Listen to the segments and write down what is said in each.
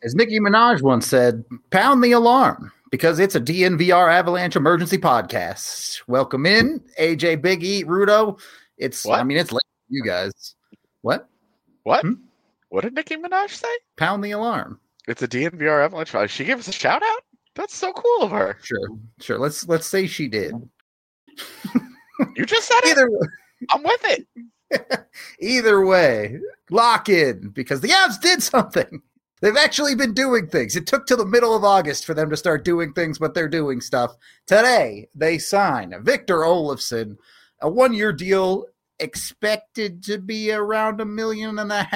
As Nicki Minaj once said, pound the alarm because it's a DNVR Avalanche emergency podcast. Welcome in, AJ, Big E, Rudo. It's What? it's late for you guys. What? What? What did Nicki Minaj say? Pound the alarm. It's a DNVR Avalanche. She gave us a shout out? That's so cool of her. Sure. Let's say she did. You just said it. I'm with it. Either way, lock in because the Avs did something. They've actually been doing things. It took till the middle of August for them to start doing things, but they're doing stuff. Today, they sign Victor Olofsson, a 1-year deal expected to be around $1.5 million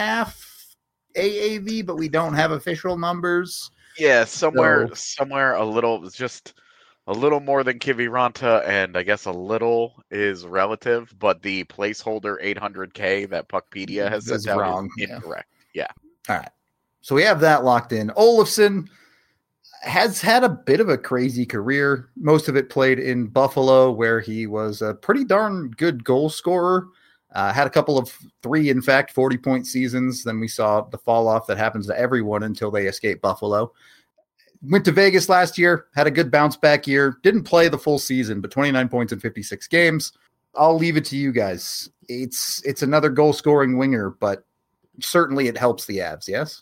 AAV, but we don't have official numbers. Yeah, somewhere a little, just a little more than Kiviranta, and I guess a little is relative, but the placeholder 800K that Puckpedia has sent out is incorrect. Yeah. All right. So we have that locked in. Olofsson has had a bit of a crazy career. Most of it played in Buffalo, where he was a pretty darn good goal scorer. Had a couple of 40-point seasons. Then we saw the fall off that happens to everyone until they escape Buffalo. Went to Vegas last year, had a good bounce back year. Didn't play the full season, but 29 points in 56 games. I'll leave it to you guys. It's another goal scoring winger, but certainly it helps the Avs. Yes.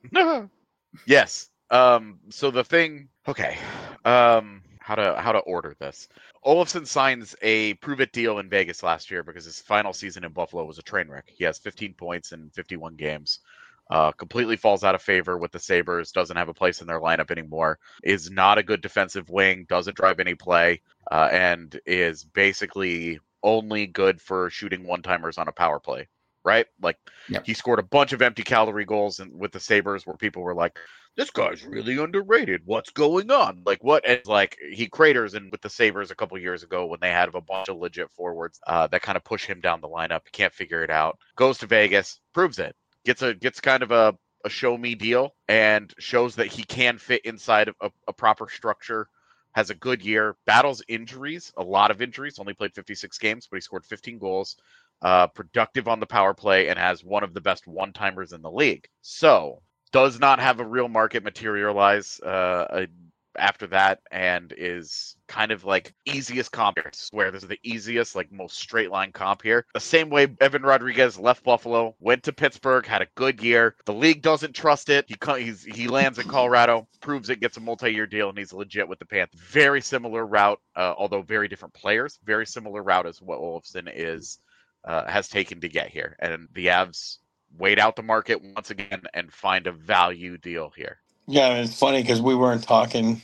Yes. So the thing, okay. How to order this? Olofsson signs a prove-it deal in Vegas last year because his final season in Buffalo was a train wreck. He has 15 points in 51 games. Completely falls out of favor with the Sabres, doesn't have a place in their lineup anymore, is not a good defensive wing, doesn't drive any play, and is basically only good for shooting one-timers on a power play, right? Like, yep. He scored a bunch of empty calorie goals with the Sabres where people were like, this guy's really underrated. What's going on? Like, what? And like, he craters in with the Sabres a couple years ago when they had a bunch of legit forwards that kind of push him down the lineup. Can't figure it out. Goes to Vegas, proves it. Gets kind of a show me deal and shows that he can fit inside of a proper structure. Has a good year. Battles injuries, a lot of injuries. Only played 56 games, but he scored 15 goals. Productive on the power play and has one of the best one-timers in the league. So does not have a real market materialize after that, and is kind of like easiest comp here. I swear this is the easiest, like most straight line comp here. The same way Evan Rodriguez left Buffalo, went to Pittsburgh, had a good year. The league doesn't trust it. He lands in Colorado, proves it, gets a multi-year deal, and he's legit with the Panthers. Very similar route, although very different players. Very similar route as what Olofsson has taken to get here, and the Avs wait out the market once again and find a value deal here. Yeah, it's funny because we weren't talking,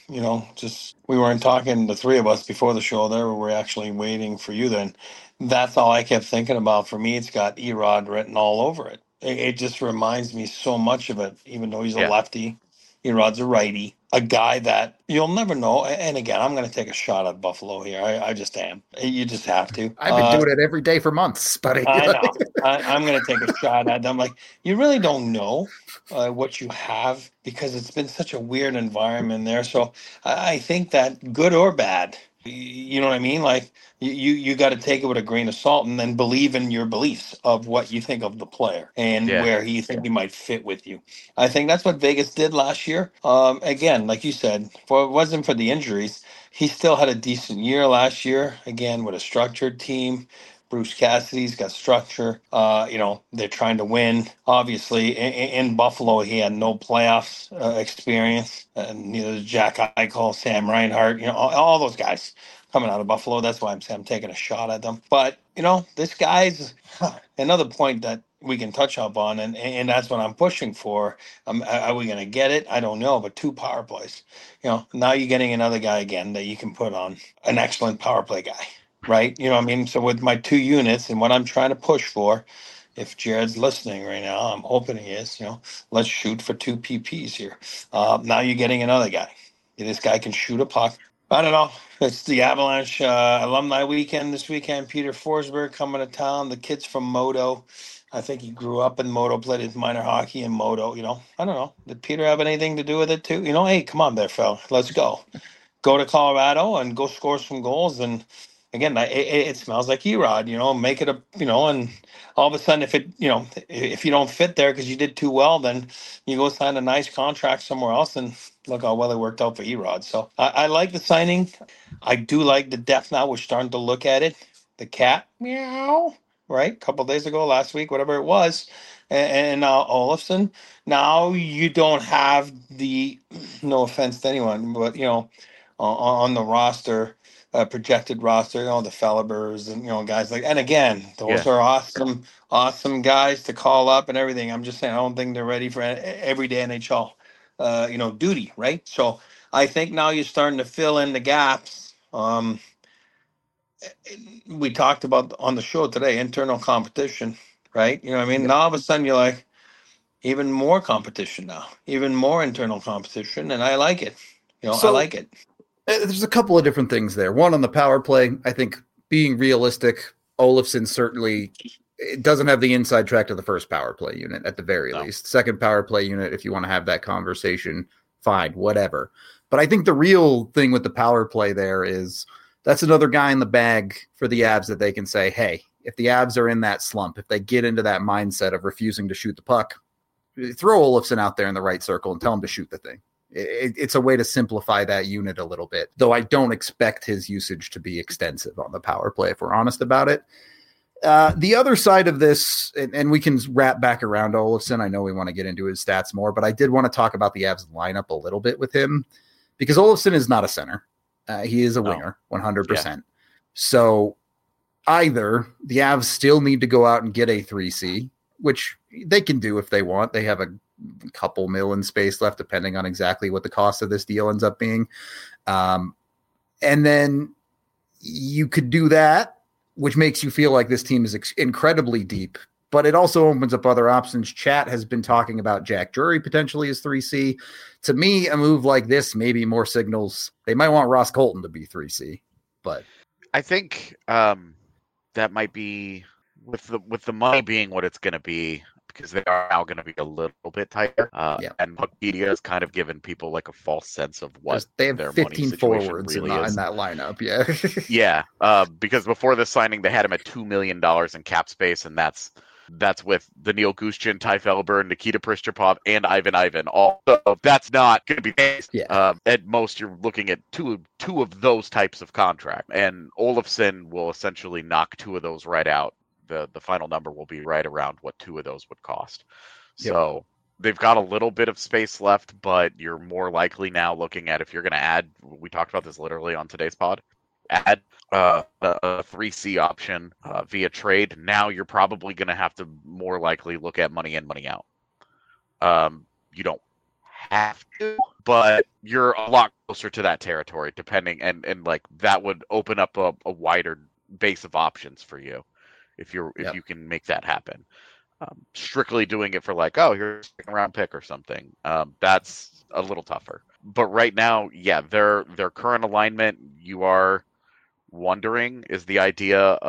the three of us before the show there. We were actually waiting for you then. That's all I kept thinking about. For me, it's got Erod written all over it. It just reminds me so much of it, even though he's a lefty. Erod's a righty, a guy that you'll never know. And again, I'm going to take a shot at Buffalo here. I just am. You just have to. I've been doing it every day for months, buddy. I know. I'm going to take a shot at them. Like, you really don't know what you have because it's been such a weird environment there. So I think that good or bad, you know what I mean? Like, you got to take it with a grain of salt and then believe in your beliefs of what you think of the player and where you think he might fit with you. I think that's what Vegas did last year. Again, like you said, if it wasn't for the injuries, he still had a decent year last year, again, with a structured team. Bruce Cassidy's got structure. They're trying to win. Obviously, in Buffalo, he had no playoffs experience. And neither Jack Eichel, Sam Reinhart, all those guys coming out of Buffalo. That's why I'm taking a shot at them. But, this guy's another point that we can touch up on, and that's what I'm pushing for. Are we going to get it? I don't know, but 2 power plays. Now you're getting another guy again that you can put on, an excellent power play guy. Right. You know what I mean? So with my 2 units and what I'm trying to push for, if Jared's listening right now, I'm hoping he is, let's shoot for 2 PPs here. Now you're getting another guy. This guy can shoot a puck. I don't know. It's the Avalanche alumni weekend this weekend. Peter Forsberg coming to town. The kid's from Modo. I think he grew up in Modo, played his minor hockey in Modo. I don't know. Did Peter have anything to do with it too? Hey, come on there, fella. Let's go. Go to Colorado and go score some goals and again, it smells like Erod, make it and all of a sudden, if you don't fit there because you did too well, then you go sign a nice contract somewhere else, and look how well it worked out for Erod. So I like the signing. I do like the depth now. We're starting to look at it. The cat, meow, right? A couple days ago, last week, whatever it was, and now Olofsson. Now you don't have the, no offense to anyone, but on the roster, projected roster, the Fellibers and guys like. And again, Yeah. those are awesome guys to call up and everything. I'm just saying, I don't think they're ready for everyday NHL, duty, right? So I think now you're starting to fill in the gaps. We talked about on the show today, internal competition, right? You know what I mean? Yep. Now all of a sudden you're like, even more competition now, even more internal competition, and I like it. I So like it. there's a couple of different things there. One, on the power play, I think being realistic, Olofsson certainly it doesn't have the inside track to the first power play unit at the very No. least. Second power play unit, if you want to have that conversation, fine, whatever. But I think the real thing with the power play there is that's another guy in the bag for the Avs that they can say, hey, if the Avs are in that slump, if they get into that mindset of refusing to shoot the puck, throw Olofsson out there in the right circle and tell him to shoot the thing. It's a way to simplify that unit a little bit, though I don't expect his usage to be extensive on the power play, if we're honest about it. The other side of this, and we can wrap back around Olofsson. I know we want to get into his stats more, but I did want to talk about the Avs lineup a little bit with him because Olofsson is not a center. He is a winger, 100%. Yeah. So either the Avs still need to go out and get a 3C, which they can do if they want. They have a couple mil in space left, depending on exactly what the cost of this deal ends up being. And then you could do that, which makes you feel like this team is incredibly deep, but it also opens up other options. Chat has been talking about Jack Drury potentially as 3C. To me, a move like this maybe more signals they might want Ross Colton to be 3C, but I think that might be with the money being what it's going to be, because they are now going to be a little bit tighter. And Puckpedia has kind of given people like a false sense of what they have their 15 money forwards really in is. that lineup. Yeah. Yeah. Because before this signing, they had him at $2 million in cap space, and that's with Daniil Gushchin, Ty Felber, Nikita Prischapov, and Ivan. Also, that's not going to be based. Yeah. At most, you're looking at two of those types of contract, and Olofsson will essentially knock two of those right out. The final number will be right around what two of those would cost. Yep. So they've got a little bit of space left, but you're more likely now looking at, if you're going to add, we talked about this literally on today's pod, add a 3C option via trade. Now you're probably going to have to more likely look at money in, money out. You don't have to, but you're a lot closer to that territory, depending, and like that would open up a wider base of options for you if you can make that happen. Strictly doing it for like, oh, here's a second round pick or something, that's a little tougher. But right now, yeah, their current alignment, you are wondering is the idea,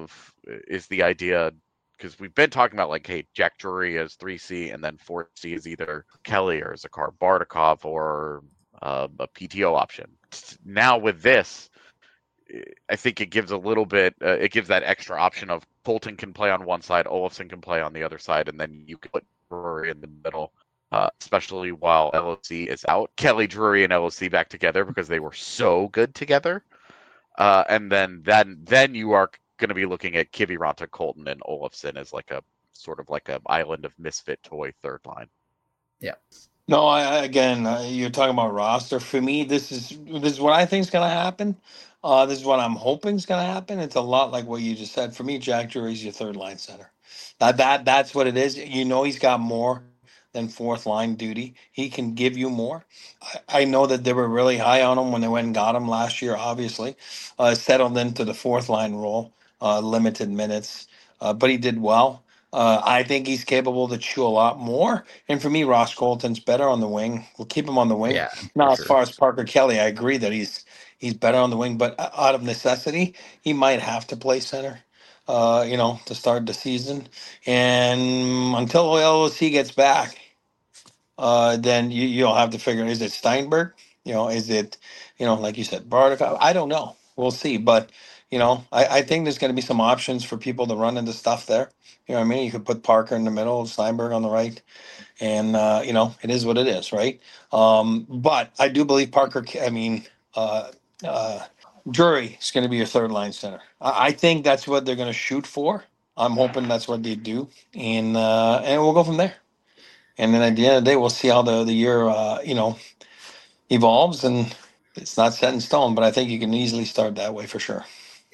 because we've been talking about like, hey, Jack Drury is 3C, and then 4C is either Kelly or Zakhar Bardakov or a PTO option. Now with this, I think it gives a little bit, it gives that extra option of Colton can play on one side, Olofsson can play on the other side, and then you can put Drury in the middle, especially while LOC is out. Kelly, Drury, and LOC back together because they were so good together. And then you are going to be looking at Kiviranta, Colton, and Olofsson as like a sort of like an island of misfit toy third line. Yeah. No, you're talking about roster. For me, this is what I think is going to happen. This is what I'm hoping is going to happen. It's a lot like what you just said. For me, Jack Drury's your third line center. That's what it is. He's got more than fourth line duty. He can give you more. I know that they were really high on him when they went and got him last year. Obviously, settled into the fourth line role, limited minutes, but he did well. I think he's capable to chew a lot more. And for me, Ross Colton's better on the wing. We'll keep him on the wing. Yeah. Now, as far as Parker Kelly, I agree that he's better on the wing, but out of necessity, he might have to play center, to start the season. And until LOC gets back, then you'll have to figure, is it Steinberg? Is it, like you said, Bardakov? I don't know. We'll see. But, I think there's going to be some options for people to run into stuff there. You know what I mean? You could put Parker in the middle, Steinberg on the right, and it is what it is, right? But I do believe uh, uh, Drury is going to be your third line center. I think that's what they're going to shoot for. I'm hoping that's what they do, and we'll go from there. And then at the end of the day, we'll see how the year evolves, and it's not set in stone. But I think you can easily start that way for sure.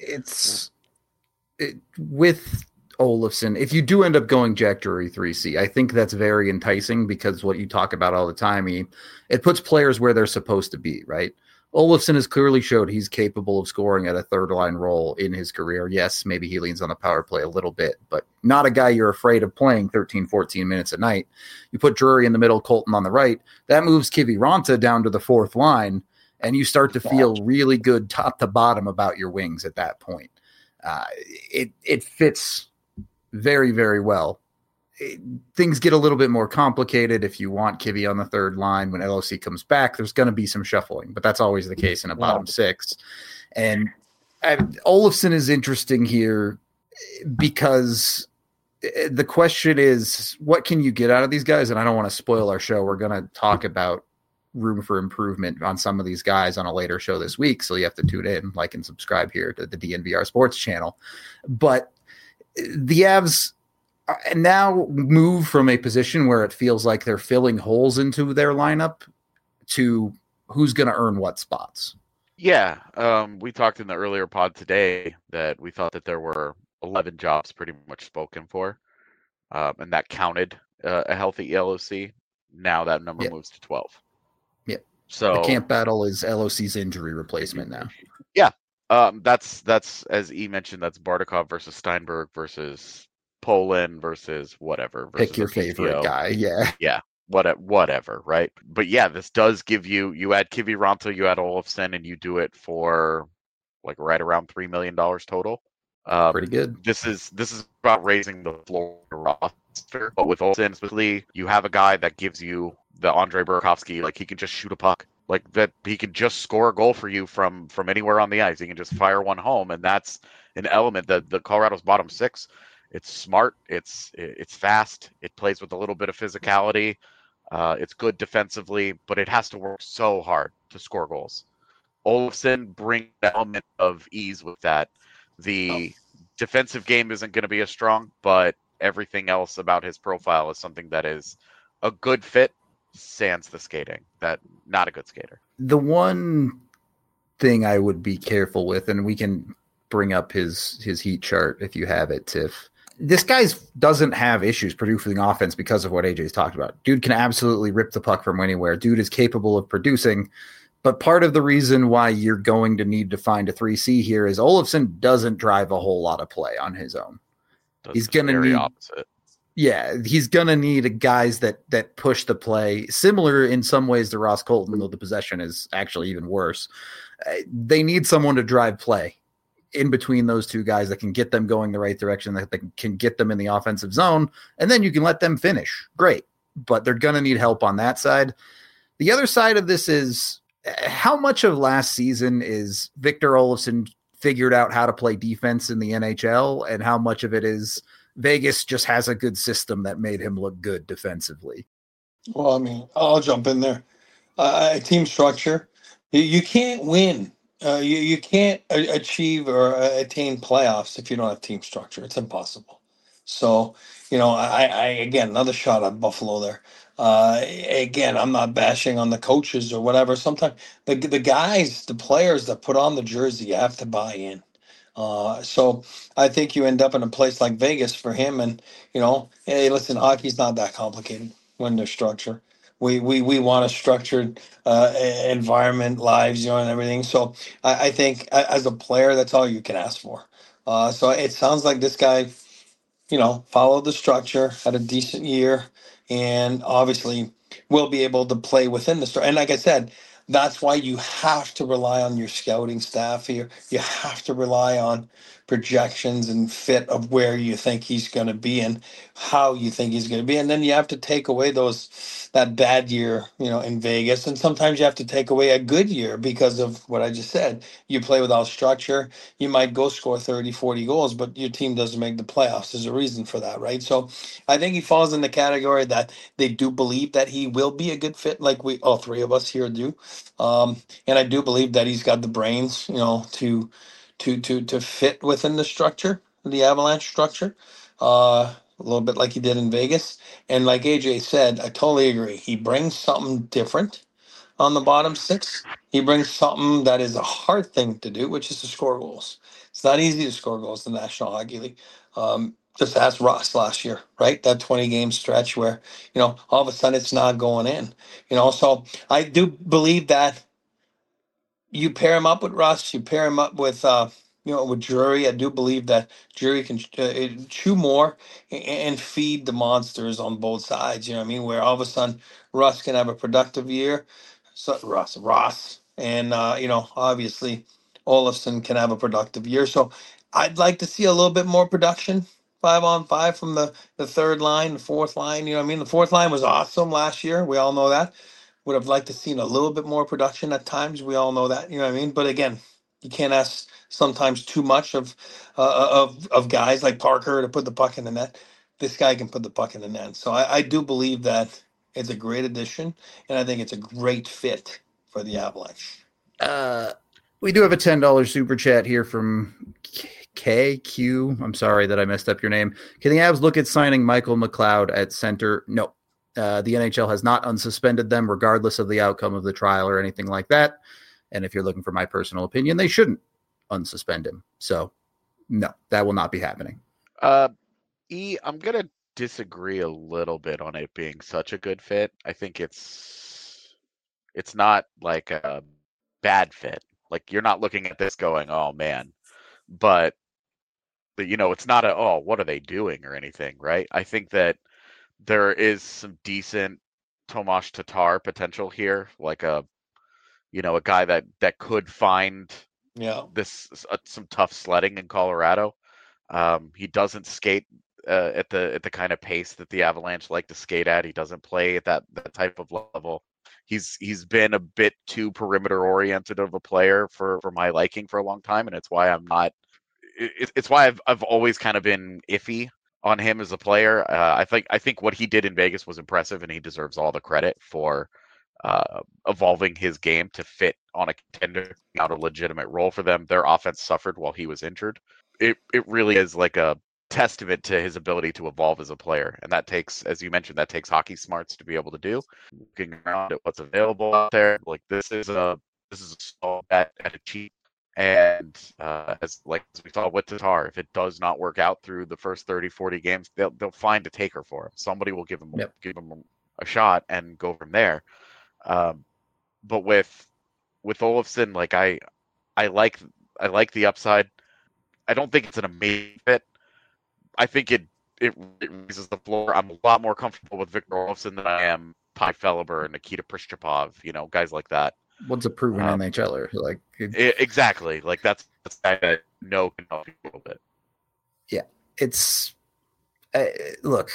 With Olofsson, if you do end up going Jack Drury 3C, I think that's very enticing because what you talk about all the time, it puts players where they're supposed to be, right? Olofsson has clearly showed he's capable of scoring at a third line role in his career. Yes, maybe he leans on the power play a little bit, but not a guy you're afraid of playing 13, 14 minutes a night. You put Drury in the middle, Colton on the right. That moves Kiviranta down to the fourth line, and you start to feel really good top to bottom about your wings at that point. It fits very, very well. Things get a little bit more complicated if you want Kivy on the third line. When LOC comes back, there's going to be some shuffling, but that's always the case in a bottom six. And Olofsson is interesting here because the question is, what can you get out of these guys? And I don't want to spoil our show. We're going to talk about room for improvement on some of these guys on a later show this week. So you have to tune in, like, and subscribe here to the DNVR Sports channel. But the Avs now move from a position where it feels like they're filling holes into their lineup to who's going to earn what spots. Yeah. We talked in the earlier pod today that we thought that there were 11 jobs pretty much spoken for, and that counted a healthy LOC. Now that number moves to 12. Yeah. So the camp battle is LOC's injury replacement now. Yeah. That's as E mentioned, that's Bardakov versus Steinberg versus Poland versus whatever. Versus Pick your favorite guy. Yeah. Yeah. Whatever. Right. But yeah, this does give you add Kiviranta, you add Olofsson, and you do it for like right around $3 million total. Pretty good. This is about raising the floor roster. But with Olofsson specifically, you have a guy that gives you the Andre Burakovsky, like he can just shoot a puck. Like that, he can just score a goal for you from anywhere on the ice. He can just fire one home, and that's an element that the Colorado's bottom six. It's smart. It's fast. It plays with a little bit of physicality. It's good defensively, but it has to work so hard to score goals. Olofsson brings an element of ease with that. The defensive game isn't going to be as strong, but everything else about his profile is something that is a good fit. Sans the skating, that not a good skater. The one thing I would be careful with, and we can bring up his heat chart if you have it, Tiff. This guy doesn't have issues producing offense because of what AJ's talked about. Dude can absolutely rip the puck from anywhere. Dude is capable of producing. But part of the reason why you're going to need to find a 3C here is Olofsson doesn't drive a whole lot of play on his own. He's going to need opposite. Yeah, he's going to need guys that push the play, similar in some ways to Ross Colton, though the possession is actually even worse. They need someone to drive play in between those two guys that can get them going the right direction, that can get them in the offensive zone, and then you can let them finish. Great, but they're going to need help on that side. The other side of this is how much of last season is Victor Olofsson figured out how to play defense in the NHL, and how much of it is Vegas just has a good system that made him look good defensively. Well, I mean, I'll jump in there. Team structure. You can't win. You can't achieve or attain playoffs if you don't have team structure. It's impossible. So, I again, another shot at Buffalo there. Again, I'm not bashing on the coaches or whatever. Sometimes the guys, the players that put on the jersey, you have to buy in. So I think you end up in a place like Vegas for him, and hey, listen, hockey's not that complicated when there's structure. We want a structured environment, lives, and everything. So I think as a player, that's all you can ask for. So it sounds like this guy, followed the structure, had a decent year, and obviously will be able to play within the structure. And like I said, that's why you have to rely on your scouting staff here. You have to rely on projections and fit of where you think he's going to be and how you think he's going to be. And then you have to take away that bad year, in Vegas. And sometimes you have to take away a good year because of what I just said. You play without structure. You might go score 30, 40 goals, but your team doesn't make the playoffs. There's a reason for that, right? So I think he falls in the category that they do believe that he will be a good fit, like all three of us here do. And I do believe that he's got the brains, to fit within the structure, the Avalanche structure, a little bit like he did in Vegas. And like AJ said, I totally agree. He brings something different on the bottom six. He brings something that is a hard thing to do, which is to score goals. It's not easy to score goals in the National Hockey League. Just ask Ross last year, right? That 20-game stretch where, all of a sudden it's not going in. So I do believe that you pair him up with Russ, you pair him up with with Drury. I do believe that Drury can chew more and feed the monsters on both sides. You know what I mean? Where all of a sudden Russ can have a productive year, so Ross, and obviously Olofsson can have a productive year. So I'd like to see a little bit more production. 5-on-5 from the third line, the fourth line. You know what I mean? The fourth line was awesome last year. We all know that. Would have liked to seen a little bit more production at times. We all know that, you know what I mean. But again, you can't ask sometimes too much of guys like Parker to put the puck in the net. This guy can put the puck in the net. So I do believe that it's a great addition, and I think it's a great fit for the Avalanche. We do have a $10 super chat here from KQ. I'm sorry that I messed up your name. Can the Avs look at signing Michael McLeod at center? No. The NHL has not unsuspended them regardless of the outcome of the trial or anything like that. And if you're looking for my personal opinion, they shouldn't unsuspend him. So no, that will not be happening. I'm going to disagree a little bit on it being such a good fit. I think it's not like a bad fit. Like you're not looking at this going, oh man, but it's not what are they doing or anything, right? I think that there is some decent Tomas Tatar potential here, like a guy that could find some tough sledding in Colorado. He doesn't skate at the kind of pace that the Avalanche like to skate at. He doesn't play at that type of level. He's been a bit too perimeter oriented of a player for my liking for a long time, and it's why I'm not. It's why I've always kind of been iffy on him as a player. I think what he did in Vegas was impressive, and he deserves all the credit for evolving his game to fit on a contender, not a legitimate role for them. Their offense suffered while he was injured. It really is like a testament to his ability to evolve as a player, and that takes, as you mentioned, that takes hockey smarts to be able to do. Looking around at what's available out there, like this is a small bet at a cheap. And as we saw with Tatar, if it does not work out through the first 30, 40 games, they'll find a taker for him. Somebody will give him a shot and go from there. But with Olofsson, like I like the upside. I don't think it's an amazing fit. I think it raises the floor. I'm a lot more comfortable with Victor Olofsson than I am Pi Feliber and Nikita Prischapov, guys like that. What's a proven NHLer? Like exactly. Like that's a guy that can help you a little bit. Yeah, it's look.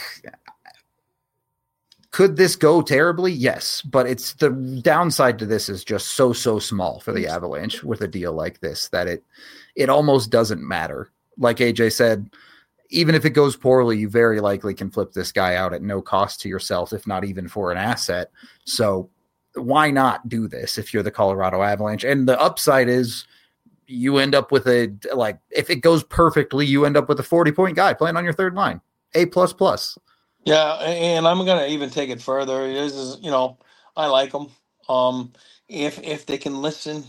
Could this go terribly? Yes, but it's the downside to this is just so small for the Avalanche with a deal like this that it almost doesn't matter. Like AJ said, even if it goes poorly, you very likely can flip this guy out at no cost to yourself, if not even for an asset. So why not do this if you're the Colorado Avalanche? And the upside is you end up with if it goes perfectly, you end up with a 40-point guy playing on your third line. A++. Yeah, and I'm gonna even take it further. This is, I like them. If they can listen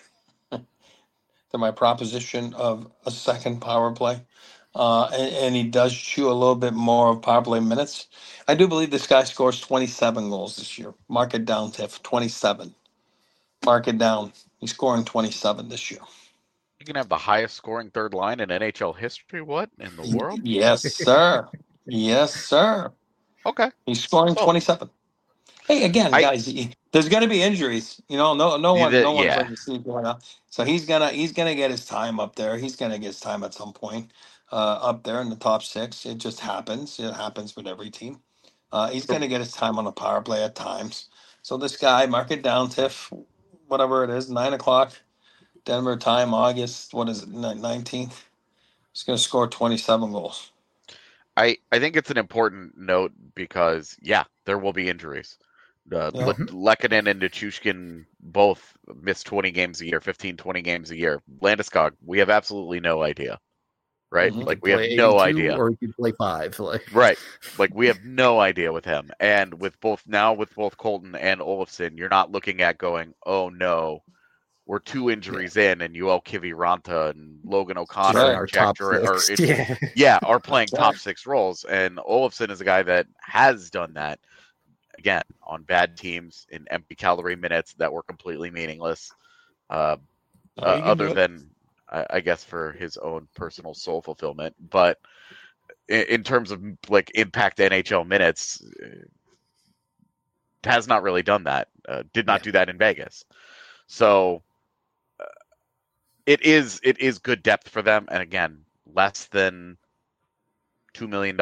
to my proposition of a second power play, and he does chew a little bit more of power play minutes, I do believe this guy scores 27 goals this year. Mark it down, Tiff. 27. Mark it down. He's scoring 27 this year. You can have the highest scoring third line in NHL history. What in the world? Yes, sir. Yes, sir. Okay. He's scoring 27. Hey, again, I guys, there's going to be injuries. No one's yeah. letting you sleep right now. So he's gonna get his time up there. He's gonna get his time at some point up there in the top six. It just happens. It happens with every team. He's gonna get his time on the power play at times. So this guy, mark it down, Tiff, whatever it is, 9 o'clock Denver time, August. What is it, 19th? He's gonna score 27 goals. I think it's an important note because there will be injuries. Yeah. Lehkonen and Nichushkin both miss 20 games a year, 15, 20 games a year. Landeskog, we have absolutely no idea, right? Mhm. Like we have no idea. or you could play 5. Right. Like we have no idea with him. And with both Colton and Olofsson, you're not looking at going, oh no, we're 2 injuries in, and Yoel Kiviranta and Logan O'Connor Right. and Our Jack top Durant 6. are playing Right. top 6 roles. And Olofsson is a guy that has done that again on bad teams in empty calorie minutes that were completely meaningless. Oh, you can do Other it. than I guess for his own personal soul fulfillment, but in terms of like impact NHL minutes, has not really done that. Did not do that in Vegas. So it is good depth for them, and again, less than $2 million.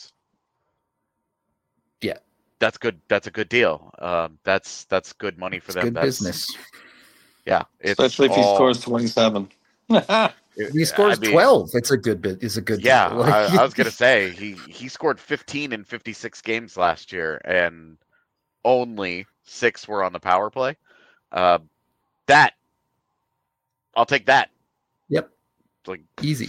Yeah, that's good. That's a good deal. That's good money for it's them. good That's business. Yeah, it's Especially if he scores 27. If he scores 12, it's a good bit. It's a good Yeah, deal. I was gonna say he scored 15 in 56 games last year, and only 6 were on the power play. That I'll take that. Yep, Like easy.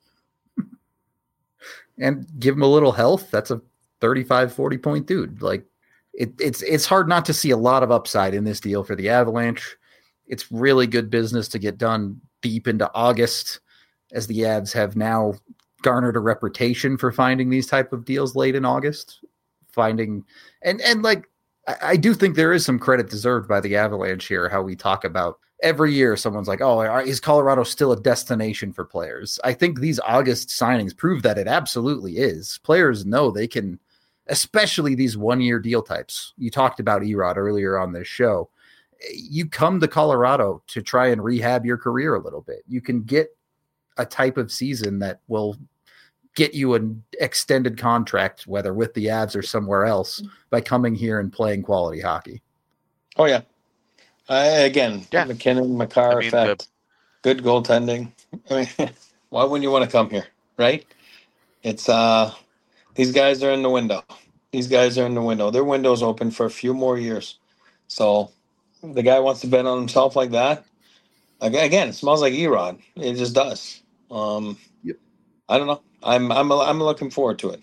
And give him a little health. That's a 35, 40 point dude. Like it's hard not to see a lot of upside in this deal for the Avalanche. It's really good business to get done deep into August, as the Avs have now garnered a reputation for finding these type of deals late in August. And like I do think there is some credit deserved by the Avalanche here, how we talk about every year someone's like, oh, is Colorado still a destination for players? I think these August signings prove that it absolutely is. Players know they can, especially these 1-year deal types. You talked about Erod earlier on this show. You come to Colorado to try and rehab your career a little bit. You can get a type of season that will get you an extended contract, whether with the Avs or somewhere else, by coming here and playing quality hockey. Oh, yeah. McKinnon, Makar effect, good goaltending. I mean, why wouldn't you want to come here, right? It's these guys are in the window. Their window's open for a few more years. So the guy wants to bet on himself like that. Again, it smells like Erod. It just does. Yep. I don't know. I'm looking forward to it.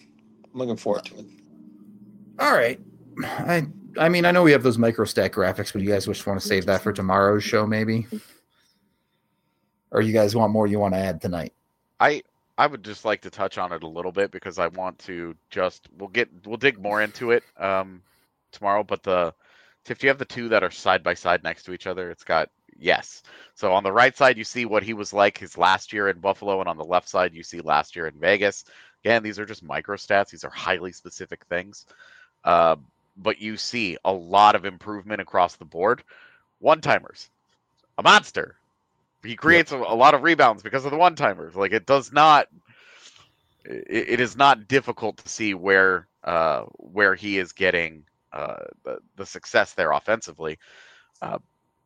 All right. I mean, I know we have those microstat graphics, but you guys just want to save that for tomorrow's show, maybe? Or you guys want more you want to add tonight? I would just like to touch on it a little bit because I want to we'll dig more into it tomorrow. But Tiff, do you have the 2 that are side by side next to each other? It's got yes. So on the right side, you see what he was like his last year in Buffalo, and on the left side, you see last year in Vegas. Again, these are just microstats. These are highly specific things. But you see a lot of improvement across the board. One-timers, a monster. He creates a lot of rebounds because of the one-timers. Like it is not difficult to see where he is getting the success there offensively. A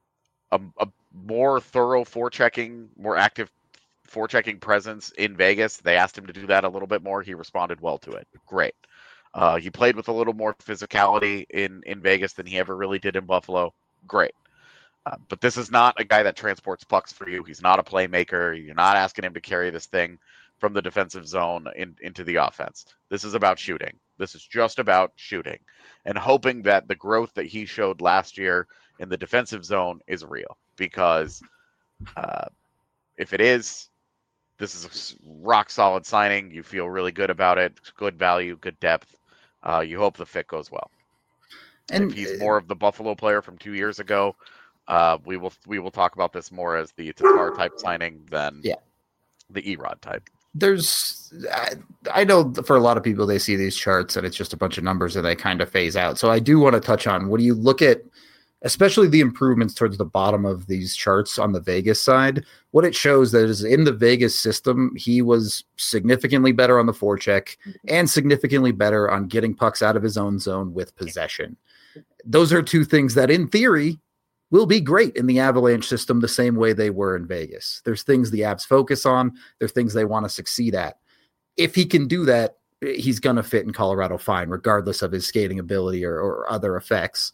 more thorough forechecking, more active forechecking presence in Vegas. They asked him to do that a little bit more. He responded well to it. Great. He played with a little more physicality in Vegas than he ever really did in Buffalo. Great. But this is not a guy that transports pucks for you. He's not a playmaker. You're not asking him to carry this thing from the defensive zone into the offense. This is about shooting. This is just about shooting and hoping that the growth that he showed last year in the defensive zone is real. Because if it is, this is a rock solid signing. You feel really good about it. Good value, good depth. You hope the fit goes well. And if he's more of the Buffalo player from 2 years ago, we will talk about this more as the Tatar type signing than the Erod type. I know for a lot of people, they see these charts and it's just a bunch of numbers and they kind of phase out. So I do want to touch on, when you look at especially the improvements towards the bottom of these charts on the Vegas side, what it shows that is in the Vegas system, he was significantly better on the forecheck and significantly better on getting pucks out of his own zone with possession. Those are two things that in theory will be great in the Avalanche system the same way they were in Vegas. There's things the Avs focus on. There's things they want to succeed at. If he can do that, he's going to fit in Colorado fine, regardless of his skating ability or other effects.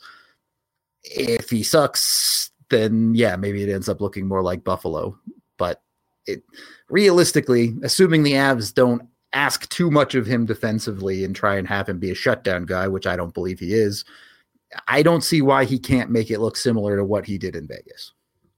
If he sucks, then yeah, maybe it ends up looking more like Buffalo. But realistically, assuming the Avs don't ask too much of him defensively and try and have him be a shutdown guy, which I don't believe he is, I don't see why he can't make it look similar to what he did in Vegas.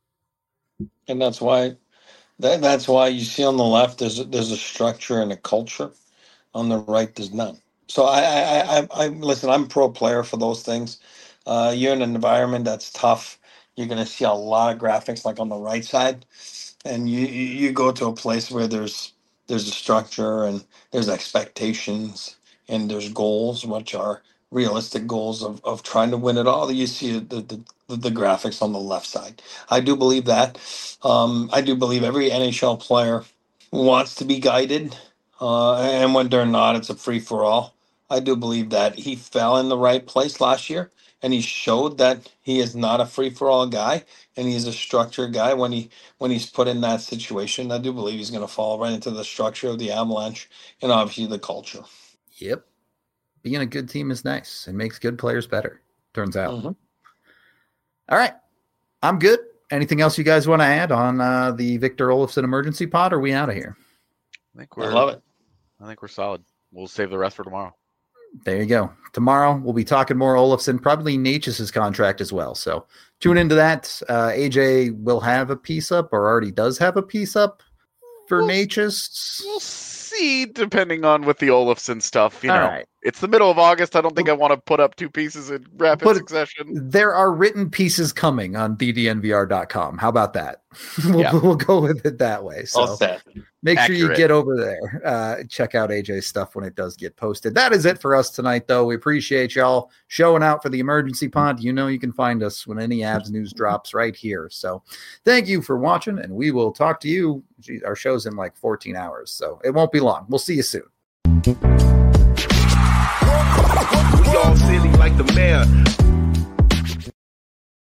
And that's why you see on the left there's a structure and a culture. On the right, there's none. So I listen. I'm pro player for those things. You're in an environment that's tough. You're going to see a lot of graphics like on the right side, and you go to a place where there's a structure and there's expectations and there's goals, which are realistic goals of trying to win it all. You see the graphics on the left side. I do believe that. I do believe every NHL player wants to be guided, and when they're not, it's a free for all. I do believe that he fell in the right place last year. And he showed that he is not a free-for-all guy, and he's a structured guy. When he's put in that situation, I do believe he's going to fall right into the structure of the Avalanche and obviously the culture. Yep. Being a good team is nice and makes good players better, turns out. Mm-hmm. All right. I'm good. Anything else you guys want to add on the Victor Olofsson emergency pod, or are we out of here? I love it. I think we're solid. We'll save the rest for tomorrow. There you go. Tomorrow we'll be talking more Olofsson, probably Necas' contract as well. So tune into that. AJ will have a piece up, or already does have a piece up for Necas. We'll see, depending on with the Olofsson stuff. You know, right. It's the middle of August. I don't think I want to put up two pieces in rapid succession. There are written pieces coming on ddnvr.com. How about that? We'll go with it that way. So make sure you get over there. Check out AJ's stuff when it does get posted. That is it for us tonight, though. We appreciate y'all showing out for the emergency pod. You know you can find us when any Avs news drops right here. So thank you for watching, and we will talk to you. Our show's in like 14 hours, so it won't be long. We'll see you soon. We all silly like the mayor.